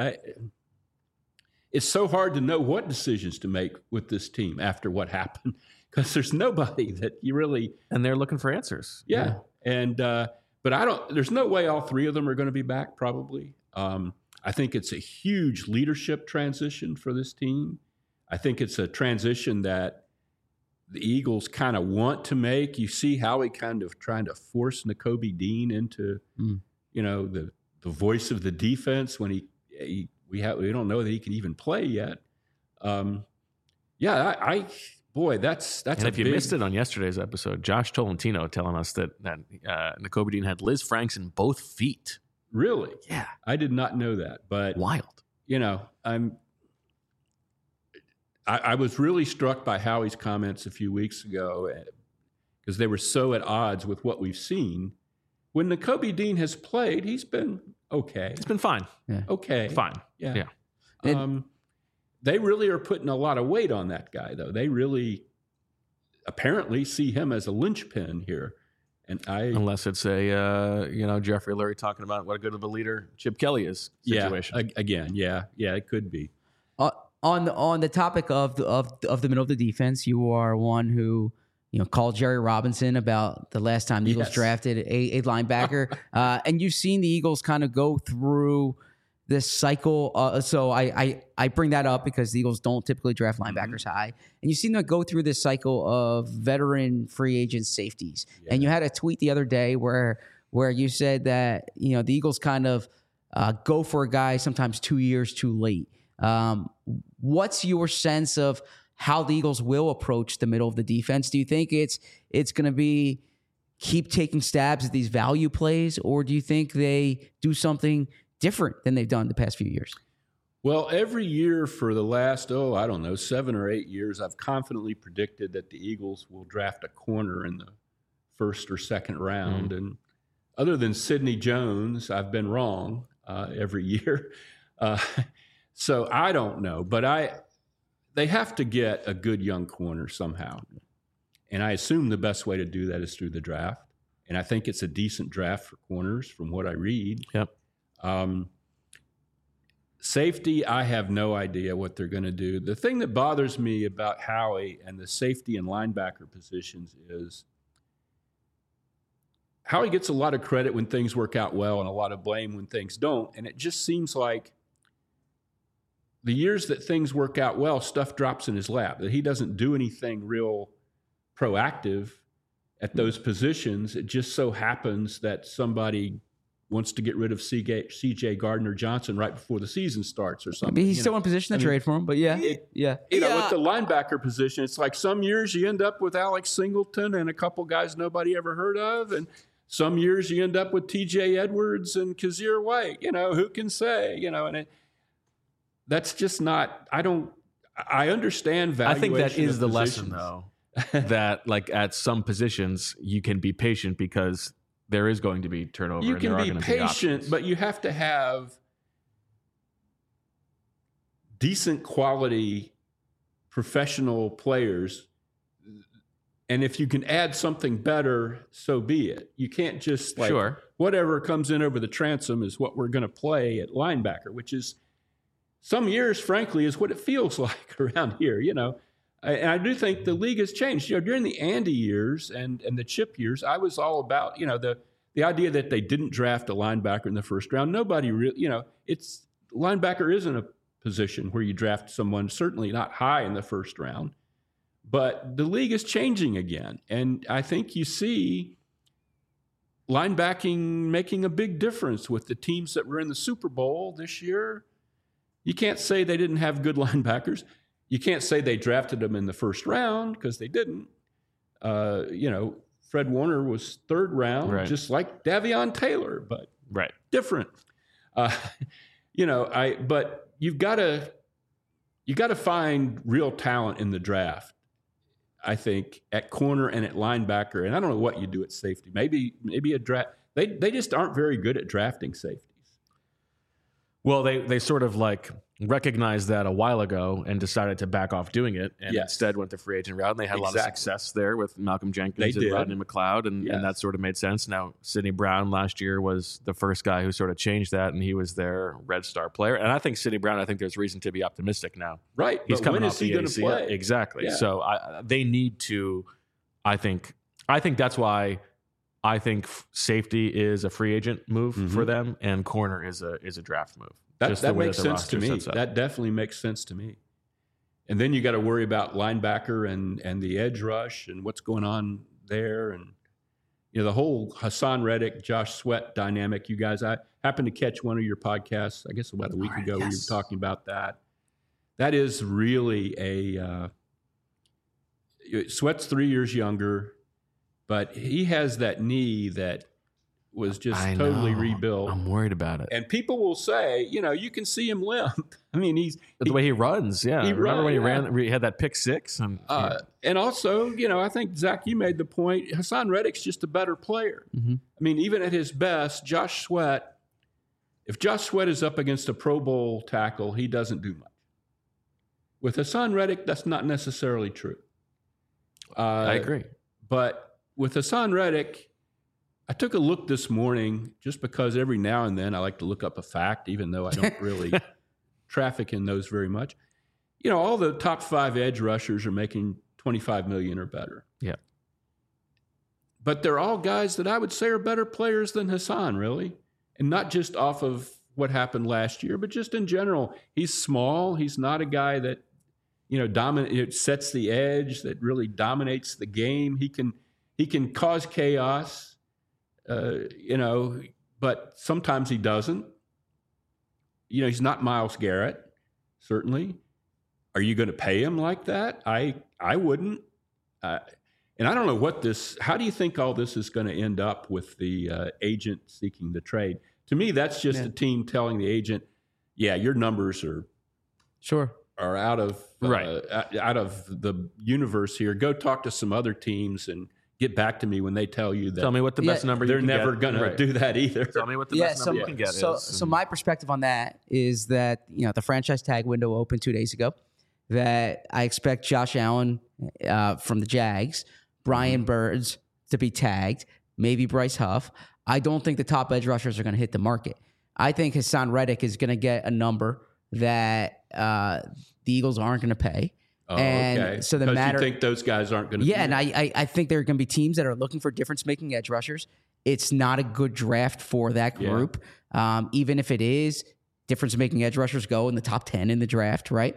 It's so hard to know what decisions to make with this team after what happened because there's nobody that you really. And they're looking for answers. Yeah. And, but there's no way all 3 of them are going to be back probably. I think it's a huge leadership transition for this team. I think it's a transition that the Eagles kind of want to make. You see Howie kind of trying to force Nakobe Dean into, the voice of the defense when we don't know that he can even play yet. boy, that's and if you missed it on yesterday's episode, Josh Tolentino telling us that Nakobe Dean had Liz Franks in both feet. Really? Yeah. I did not know that, but wild. I was really struck by Howie's comments a few weeks ago because they were so at odds with what we've seen. When Nakobe Dean has played, he's been okay. It's been fine. Yeah. Okay. Fine. Yeah. They really are putting a lot of weight on that guy, though. They really apparently see him as a linchpin here. And unless it's a Jeffrey Lurie talking about what a good of a leader Chip Kelly is situation. Yeah, it could be. On the topic of the middle of the defense, you are one who called Jerry Robinson about the last time the Eagles drafted a linebacker, and you've seen the Eagles kind of go through this cycle. So I bring that up because the Eagles don't typically draft linebackers high, and you've seen them go through this cycle of veteran free agent safeties. Yeah. And you had a tweet the other day where you said that the Eagles kind of go for a guy sometimes 2 years too late. What's your sense of how the Eagles will approach the middle of the defense? Do you think it's going to be keep taking stabs at these value plays, or do you think they do something different than they've done the past few years? Well, every year for the last, 7 or 8 years, I've confidently predicted that the Eagles will draft a corner in the first or second round. Mm-hmm. And other than Sidney Jones, I've been wrong every year. So I don't know, but they have to get a good young corner somehow. And I assume the best way to do that is through the draft. And I think it's a decent draft for corners from what I read. Yep. Safety, I have no idea what they're going to do. The thing that bothers me about Howie and the safety and linebacker positions is Howie gets a lot of credit when things work out well and a lot of blame when things don't. And it just seems like the years that things work out well, stuff drops in his lap, that he doesn't do anything real proactive at those positions. It just so happens that somebody wants to get rid of C.J. Gardner-Johnson right before the season starts or something. Maybe he's still in position to trade for him, but yeah. With the linebacker position, it's like some years you end up with Alex Singleton and a couple guys nobody ever heard of, and some years you end up with T.J. Edwards and Kazir White. Who can say? And that's just not. I understand valuation. I think that is the lesson, though. That like at some positions you can be patient because there is going to be turnover. You can be patient, but you have to have decent quality professional players. And if you can add something better, so be it. You can't just whatever comes in over the transom is what we're going to play at linebacker, which is some years, frankly, is what it feels like around here, And I do think the league has changed. During the Andy years and the Chip years, I was all about, the idea that they didn't draft a linebacker in the first round. Nobody really, linebacker isn't a position where you draft someone, certainly not high in the first round. But the league is changing again. And I think you see linebacking making a big difference with the teams that were in the Super Bowl this year. You can't say they didn't have good linebackers. You can't say they drafted them in the first round because they didn't. Fred Warner was third round, just like Davion Taylor, but different. But you've got to find real talent in the draft. I think at corner and at linebacker, and I don't know what you do at safety. Maybe a draft. They just aren't very good at drafting safeties. Well, they sort of like recognized that a while ago and decided to back off doing it, and instead went the free agent route. And they had a lot of success there with Malcolm Jenkins and Rodney McLeod, and that sort of made sense. Now, Sidney Brown last year was the first guy who sort of changed that, and he was their Red Star player. And I think Sidney Brown, there's reason to be optimistic now. Right. He's coming when off is he the going to play? Exactly. Yeah. So they need to, I think that's why I think safety is a free agent move for them, and corner is a draft move. That makes sense to me. That definitely makes sense to me. And then you got to worry about linebacker and the edge rush and what's going on there. And, the whole Hassan Reddick, Josh Sweat dynamic. You guys, I happened to catch one of your podcasts, I guess about a week ago, where you were talking about that. That is really Sweat's 3 years younger, but he has that knee that was just totally rebuilt. I'm worried about it. And people will say, you can see him limp. I mean, the way he runs. Yeah. Remember when he had that pick six? And also, I think, Zach, you made the point. Hassan Reddick's just a better player. Mm-hmm. I mean, even at his best, if Josh Sweat is up against a Pro Bowl tackle, he doesn't do much. With Hassan Reddick, that's not necessarily true. I agree. But with Hassan Reddick, I took a look this morning just because every now and then I like to look up a fact, even though I don't really traffic in those very much. All the top 5 edge rushers are making $25 million or better. Yeah. But they're all guys that I would say are better players than Hassan, really. And not just off of what happened last year, but just in general. He's small. He's not a guy that, sets the edge, that really dominates the game. He can cause chaos. But sometimes he doesn't. He's not Myles Garrett, certainly. Are you going to pay him like that? I wouldn't. And I don't know how do you think all this is going to end up with the agent seeking the trade? To me, that's just a team telling the agent, yeah, your numbers are out of out of the universe here. Go talk to some other teams and get back to me when they tell you that. Tell me what the best number you can get. They're never going to do that either. Tell me what the best number you can get is. So my perspective on that is that, the franchise tag window opened 2 days ago, that I expect Josh Allen from the Jags, Brian Burns to be tagged, maybe Bryce Huff. I don't think the top edge rushers are going to hit the market. I think Hassan Reddick is going to get a number that the Eagles aren't going to pay. Oh, okay. So you think those guys aren't going to? Yeah, and I think there are going to be teams that are looking for difference-making edge rushers. It's not a good draft for that group, even if it is. Difference-making edge rushers go in the top 10 in the draft, right?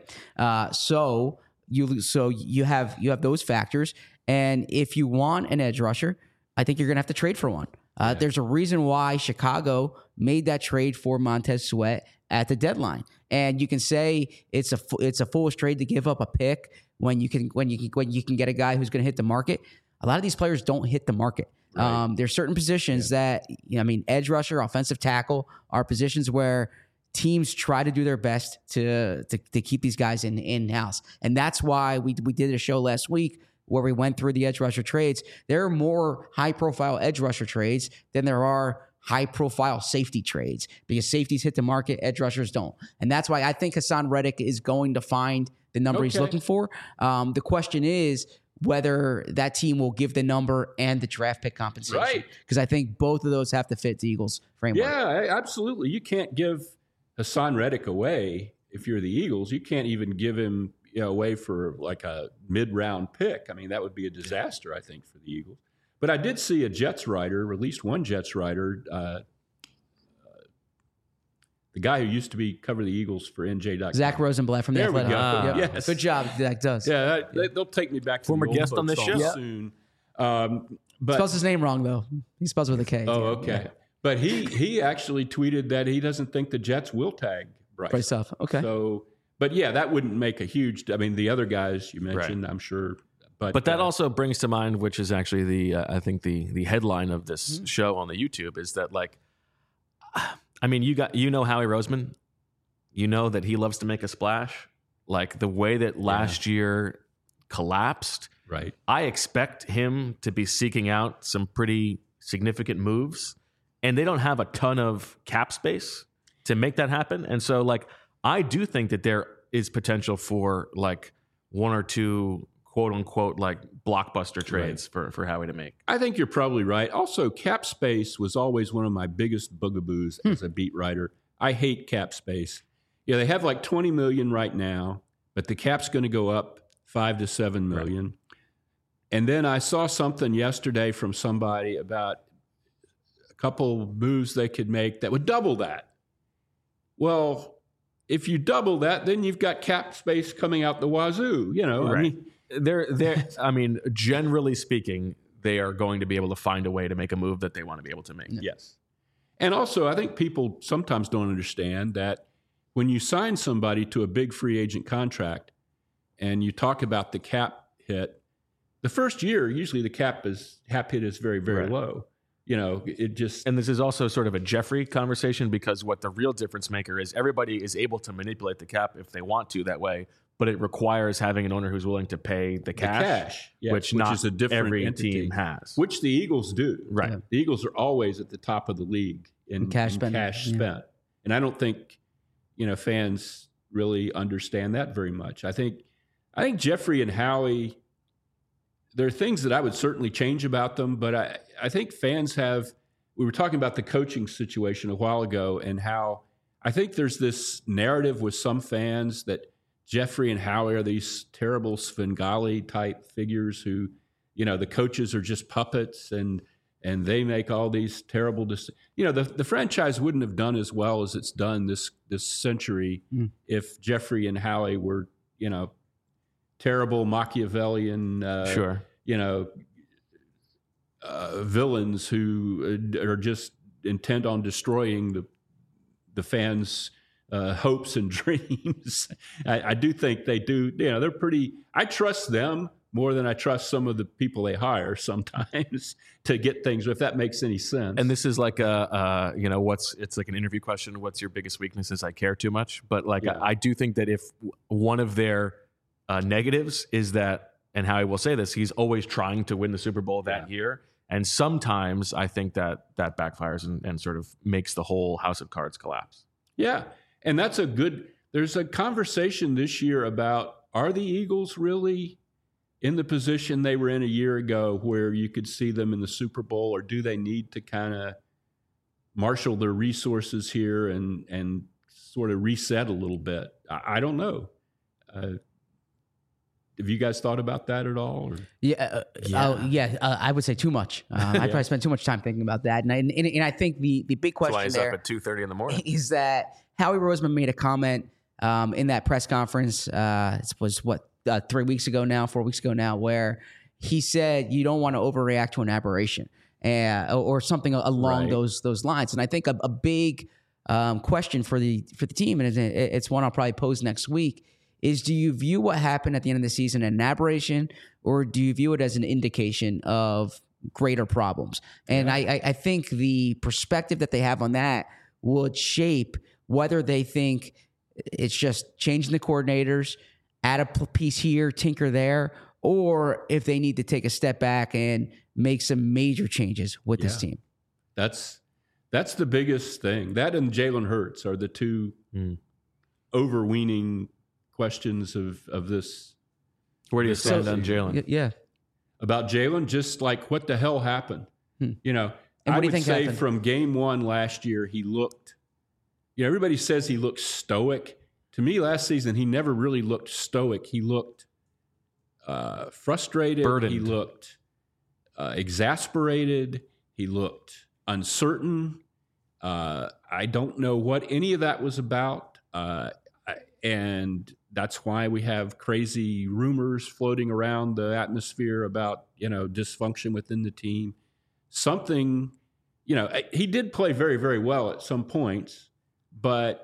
So you have those factors, and if you want an edge rusher, I think you're going to have to trade for one. There's a reason why Chicago made that trade for Montez Sweat at the deadline. And you can say it's a foolish trade to give up a pick when you can get a guy who's going to hit the market. A lot of these players don't hit the market. Right. There's certain positions that, edge rusher, offensive tackle are positions where teams try to do their best to keep these guys in-house. And that's why we did a show last week where we went through the edge rusher trades. There are more high-profile edge rusher trades than there are high-profile safety trades, because safeties hit the market, edge rushers don't. And that's why I think Hassan Reddick is going to find the number he's looking for. The question is whether that team will give the number and the draft pick compensation. Right. Because I think both of those have to fit the Eagles' framework. Yeah, absolutely. You can't give Hassan Reddick away if you're the Eagles. You can't even give him away for like a mid-round pick. I mean, that would be a disaster, I think, for the Eagles. But I did see a Jets writer, or at least one Jets writer, the guy who used to cover the Eagles for NJ.com. Zach Rosenblatt from The Athletic. There we go. Yes. Good job, Zach does. Yeah, they'll take me back to former the old guest on this show soon. But spells his name wrong, though. He spells with a K. Oh, okay. Yeah. But he actually tweeted that he doesn't think the Jets will tag Bryce Huff. Okay. So, but yeah, that wouldn't make a huge. I mean, the other guys you mentioned, I'm sure. But that also brings to mind, which is actually I think the headline of this show on the YouTube is that, like, I mean, Howie Roseman, that he loves to make a splash, like the way that last year collapsed. Right. I expect him to be seeking out some pretty significant moves, and they don't have a ton of cap space to make that happen. And so, like, I do think that there is potential for like one or two quote unquote like blockbuster trades for Howie to make. I think you're probably right. Also, cap space was always one of my biggest bugaboos as a beat writer. I hate cap space. Yeah, they have like 20 million right now, but the cap's going to go up 5 to 7 million. Right. And then I saw something yesterday from somebody about a couple moves they could make that would double that. Well, if you double that, then you've got cap space coming out the wazoo. Right. I mean, generally speaking, they are going to be able to find a way to make a move that they want to be able to make. Yes. And also, I think people sometimes don't understand that when you sign somebody to a big free agent contract and you talk about the cap hit, the first year, usually the cap hit is very, very low. It just. And this is also sort of a Jeffrey conversation, because what the real difference maker is, everybody is able to manipulate the cap if they want to that way, but it requires having an owner who's willing to pay the cash, which is a different every entity, team has. Which the Eagles do. Right. The Eagles are always at the top of the league in cash spent. And I don't think, fans really understand that very much. I think Jeffrey and Howie, there are things that I would certainly change about them, but I think fans we were talking about the coaching situation a while ago, and how I think there's this narrative with some fans that Jeffrey and Howie are these terrible Svengali type figures who, the coaches are just puppets and they make all these terrible decisions. The franchise wouldn't have done as well as it's done this century if Jeffrey and Howie were, terrible Machiavellian, villains who are just intent on destroying the fans' hopes and dreams. I do think they do. They're pretty. I trust them more than I trust some of the people they hire sometimes to get things, if that makes any sense. And this is like it's like an interview question. What's your biggest weaknesses? I care too much. But I do think that if one of their negatives is that, and Howie will say this, he's always trying to win the Super Bowl that year. And sometimes I think that backfires and sort of makes the whole house of cards collapse. Yeah. And there's a conversation this year about, are the Eagles really in the position they were in a year ago where you could see them in the Super Bowl, or do they need to kind of marshal their resources here and sort of reset a little bit? I don't know. Have you guys thought about that at all? Or? I would say too much. I probably spent too much time thinking about that. And I think the big question That's why he's up at 2:30 in the morning. Is that Howie Roseman made a comment in that press conference, it was 4 weeks ago now, where he said you don't want to overreact to an aberration or something along those lines. And I think a big question for the team, and it's one I'll probably pose next week, is do you view what happened at the end of the season as an aberration, or do you view it as an indication of greater problems? And I think the perspective that they have on that would shape whether they think it's just changing the coordinators, add a piece here, tinker there, or if they need to take a step back and make some major changes with this team. That's the biggest thing. That and Jalen Hurts are the two overweening questions of this. Where do you stand on Jalen? Yeah. About Jalen, just like, what the hell happened? And I what do you would think say happened? from game one last year, he looked, everybody says he looked stoic. To me, last season, he never really looked stoic. He looked frustrated. Burdened. He looked exasperated. He looked uncertain. I don't know what any of that was about. And that's why we have crazy rumors floating around the atmosphere about, dysfunction within the team. Something, he did play very, very well at some points, but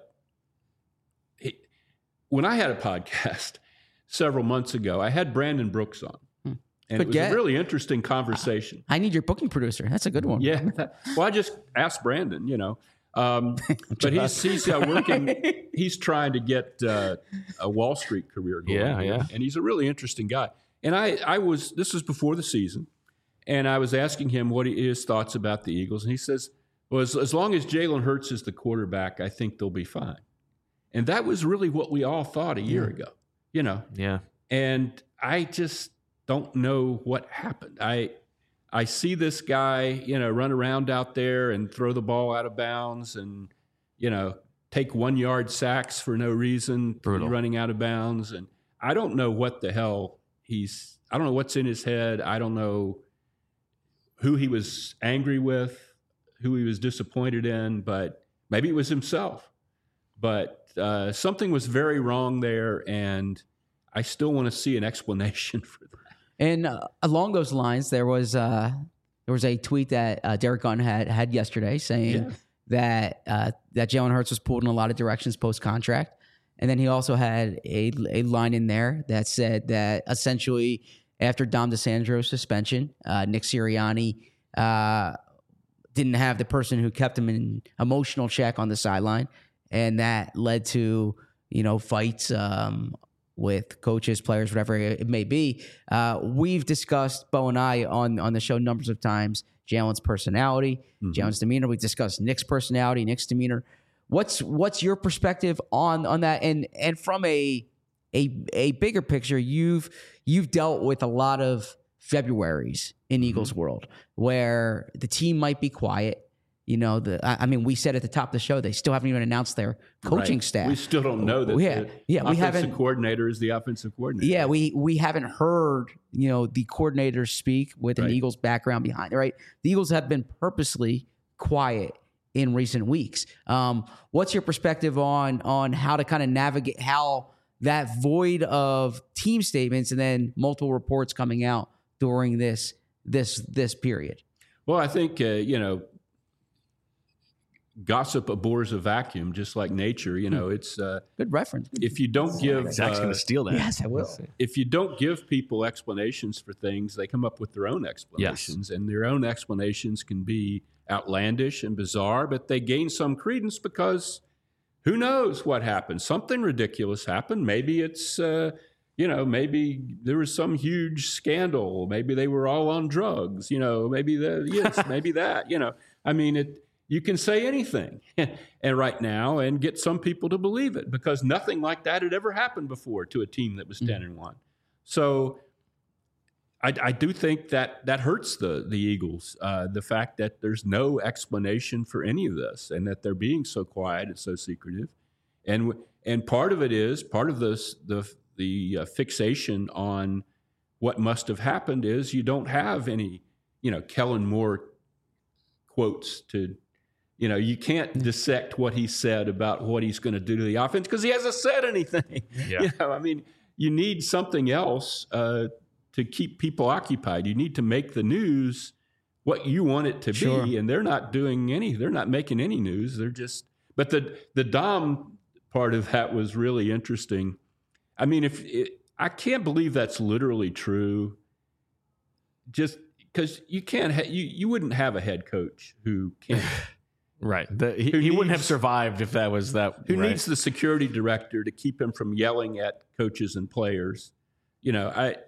when I had a podcast several months ago, I had Brandon Brooks on. And it was a really interesting conversation. I need your booking producer. That's a good one. Yeah. Well, I just asked Brandon, but he's working. He's trying to get a Wall Street career going. Yeah. And he's a really interesting guy. And this was before the season, and I was asking him what his thoughts about the Eagles, and he says, "Well, as long as Jalen Hurts is the quarterback, I think they'll be fine." And that was really what we all thought a year ago, Yeah. And I just don't know what happened. I see this guy, run around out there and throw the ball out of bounds and, take 1 yard sacks for no reason, running out of bounds. And I don't know what the hell I don't know what's in his head. I don't know who he was angry with, who he was disappointed in, but maybe it was himself. But something was very wrong there, and I still want to see an explanation for that. And along those lines, there was a tweet that Derek Gunn had yesterday saying that Jalen Hurts was pulled in a lot of directions post contract, and then he also had a line in there that said that essentially after Dom DeSandro's suspension. Nick Sirianni didn't have the person who kept him in emotional check on the sideline, and that led to fights with coaches, players, whatever it may be. We've discussed, Bo and I, on the show numbers of times, Jalen's personality, Jalen's demeanor. We discussed Nick's personality, Nick's demeanor. What's your perspective on that? And from a bigger picture, you've dealt with a lot of Februaries in Eagles world where the team might be quiet. We said at the top of the show, they still haven't even announced their coaching staff. We still don't know that the offensive coordinator is the offensive coordinator. Yeah, we haven't heard, the coordinators speak with an Eagles background behind it, right? The Eagles have been purposely quiet in recent weeks. What's your perspective on how to kind of navigate how that void of team statements and then multiple reports coming out during this period? Well, I think, gossip abhors a vacuum, just like nature. It's good reference. If you don't give, Zach's going to steal that. Yes, I will. If you don't give people explanations for things, they come up with their own explanations, and their own explanations can be outlandish and bizarre, but they gain some credence because who knows what happened? Something ridiculous happened. Maybe it's maybe there was some huge scandal. Maybe they were all on drugs. Maybe maybe that. You can say anything and right now and get some people to believe it because nothing like that had ever happened before to a team that was 10-1. So I do think that hurts the Eagles, the fact that there's no explanation for any of this and that they're being so quiet and so secretive. And part of the fixation on what must have happened is you don't have any, Kellen Moore quotes to, you can't dissect what he said about what he's going to do to the offense because he hasn't said anything. Yeah. You need something else to keep people occupied. You need to make the news what you want it to be, and they're not making any news. They're just, but the Dom part of that was really interesting. I can't believe that's literally true. Just because you can't, you wouldn't have a head coach who can't. Right. He wouldn't have survived if that was that. Who needs the security director to keep him from yelling at coaches and players? I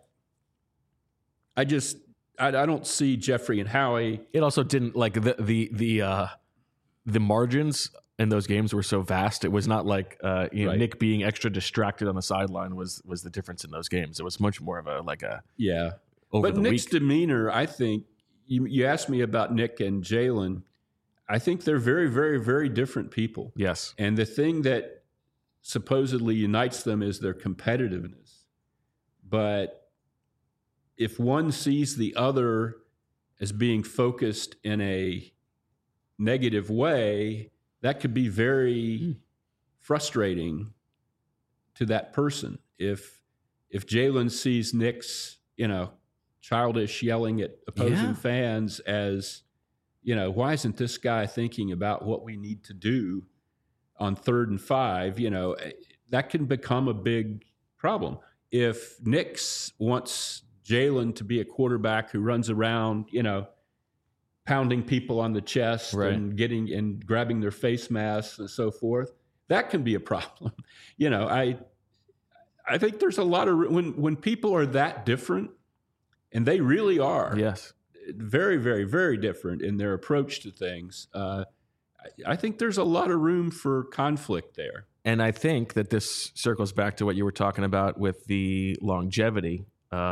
don't see Jeffrey and Howie. It also didn't like the margins in those games were so vast. It was not like Nick being extra distracted on the sideline was the difference in those games. It was much more of a over but the Nick's week. demeanor, I think you asked me about Nick and Jalen. I think they're very, very, very different people. Yes. And the thing that supposedly unites them is their competitiveness. But if one sees the other as being focused in a negative way, that could be very frustrating to that person. If Jalen sees Nick's, childish yelling at opposing fans as, why isn't this guy thinking about what we need to do on 3rd and 5? That can become a big problem. If Nick wants Jalen to be a quarterback who runs around, pounding people on the chest and grabbing their face masks and so forth, that can be a problem. I think there's a lot of when people are that different, and they really are. Yes. Very, very, very different in their approach to things. I think there's a lot of room for conflict there. And I think that this circles back to what you were talking about with the longevity,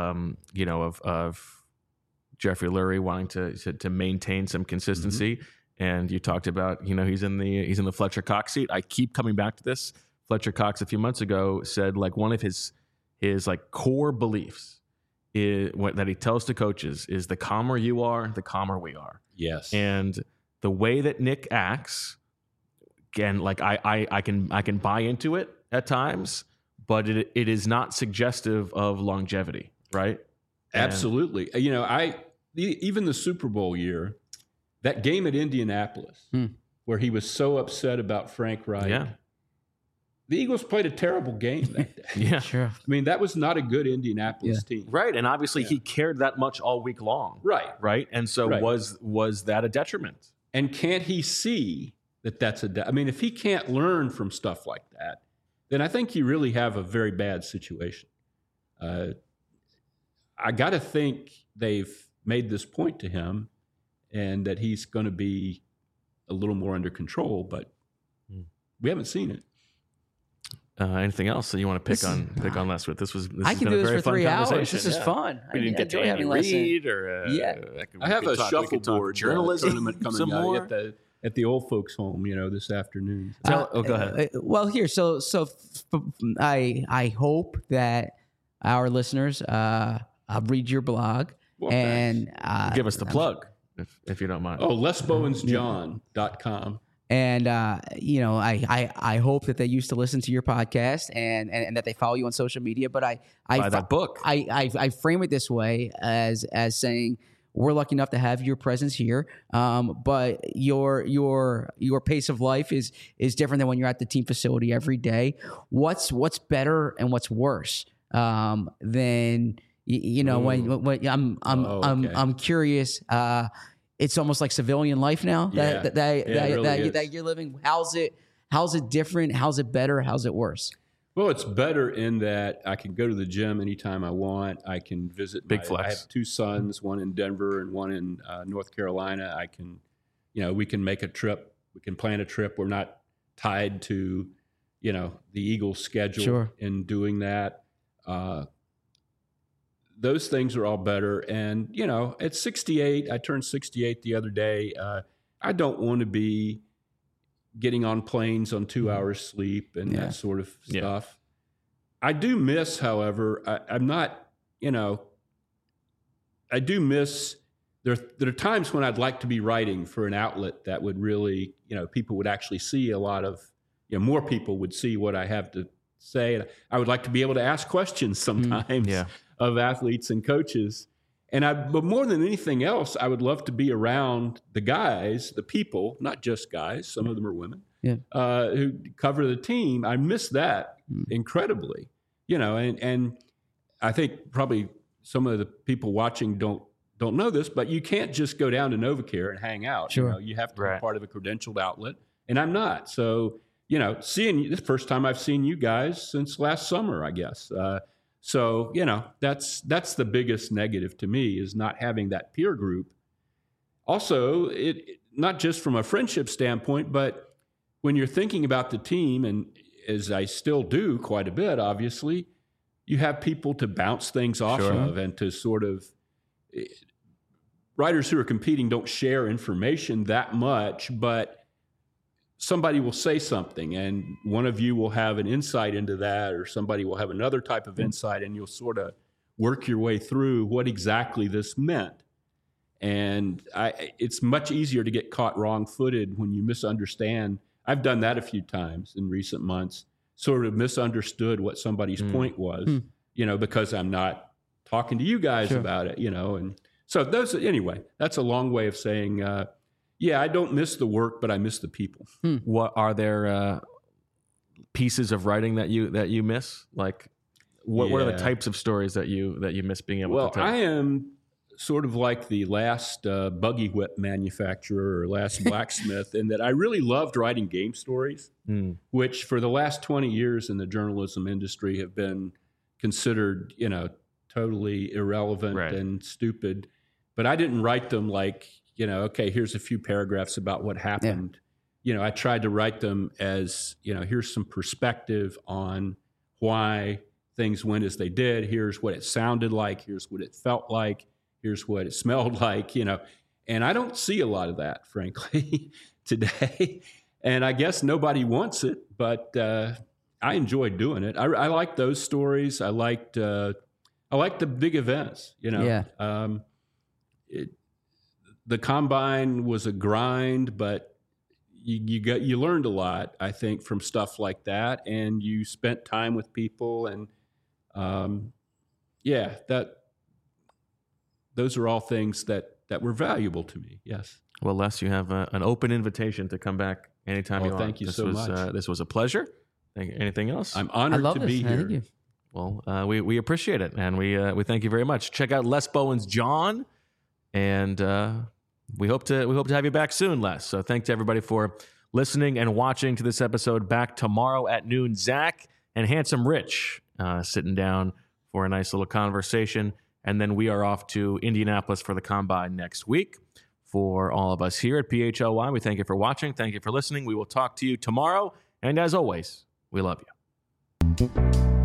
of Jeffrey Lurie wanting to maintain some consistency. And you talked about, he's in the Fletcher Cox seat. I keep coming back to this. Fletcher Cox a few months ago said one of his core beliefs that he tells to coaches is the calmer you are, the calmer we are. Yes. And the way that Nick acts, again, I can buy into it at times, but it is not suggestive of longevity, right? Absolutely. Even the Super Bowl year, that game at Indianapolis, where he was so upset about Frank Reich. Yeah. the Eagles played a terrible game that day. Yeah. Sure. I mean, that was not a good Indianapolis team. Right. And obviously he cared that much all week long. Right. Right. And so was that a detriment? And can't he see that that's I mean, if he can't learn from stuff like that, then I think you really have a very bad situation. I got to think they've made this point to him and that he's going to be a little more under control, but we haven't seen it. Anything else that you want to pick on Les with? This I has can been do a this very for 3 fun hours. This is fun. We didn't get to Andy Reid or I have a shuffleboard journalism tournament coming out at the old folks' home, this afternoon. Go ahead. Well, here, so I hope that our listeners read your blog and give us the plug if you don't mind. Oh, lesbowensjohn.com. And I hope that they used to listen to your podcast and that they follow you on social media. But buy that book. I frame it this way as saying we're lucky enough to have your presence here. But your pace of life is different than when you're at the team facility every day. What's better and what's worse than when I'm curious. It's almost like civilian life now that you're living. How's it different? How's it better? How's it worse? Well, it's better in that I can go to the gym anytime I want. I can visit. Big flex. I have 2 sons, one in Denver and one in North Carolina. I can, we can make a trip. We can plan a trip. We're not tied to, the Eagles' schedule in doing that. Those things are all better. And, at 68, I turned 68 the other day. I don't want to be getting on planes on 2 hours sleep and that sort of stuff. I do miss, however, I'm not, I do miss, there are times when I'd like to be writing for an outlet that would really, people would actually see a lot of, more people would see what I have to say. And I would like to be able to ask questions sometimes of athletes and coaches. But more than anything else, I would love to be around the guys, the people, not just guys, some of them are women, who cover the team. I miss that incredibly, and I think probably some of the people watching don't know this, but you can't just go down to NovaCare and hang out. Sure. You have to be part of a credentialed outlet, and I'm not. So, seeing you, this is the first time I've seen you guys since last summer, I guess. So, that's the biggest negative to me is not having that peer group. Also, it not just from a friendship standpoint, but when you're thinking about the team, and as I still do quite a bit, obviously, you have people to bounce things off of and to sort of writers who are competing don't share information that much, but somebody will say something and one of you will have an insight into that, or somebody will have another type of insight, and you'll sort of work your way through what exactly this meant. And it's much easier to get caught wrong-footed when you misunderstand. I've done that a few times in recent months, sort of misunderstood what somebody's point was, because I'm not talking to you guys about it, and so anyway, that's a long way of saying, I don't miss the work, but I miss the people. What are there pieces of writing that you miss? Like, what are the types of stories that you miss being able to tell? Well, I am sort of like the last buggy whip manufacturer or last blacksmith in that I really loved writing game stories, which for the last 20 years in the journalism industry have been considered, totally irrelevant and stupid. But I didn't write them like, okay, here's a few paragraphs about what happened. I tried to write them as, here's some perspective on why things went as they did. Here's what it sounded like. Here's what it felt like. Here's what it smelled like, And I don't see a lot of that, frankly, today. And I guess nobody wants it, but I enjoyed doing it. I like those stories. I liked the big events, The combine was a grind, but you learned a lot, I think, from stuff like that, and you spent time with people, and those are all things that were valuable to me. Yes. Well, Les, you have an open invitation to come back anytime you want. Thank you so much. This was a pleasure. Anything else? I'm I honored love to this. be here. Thank you. Well, we appreciate it, and we thank you very much. Check out Les Bowen's John, and we hope to have you back soon, Les. So thanks to everybody for listening and watching to this episode. Back tomorrow at noon. Zach and Handsome Rich sitting down for a nice little conversation, and then we are off to Indianapolis for the Combine next week. For all of us here at PHLY, we thank you for watching. Thank you for listening. We will talk to you tomorrow, and as always, we love you.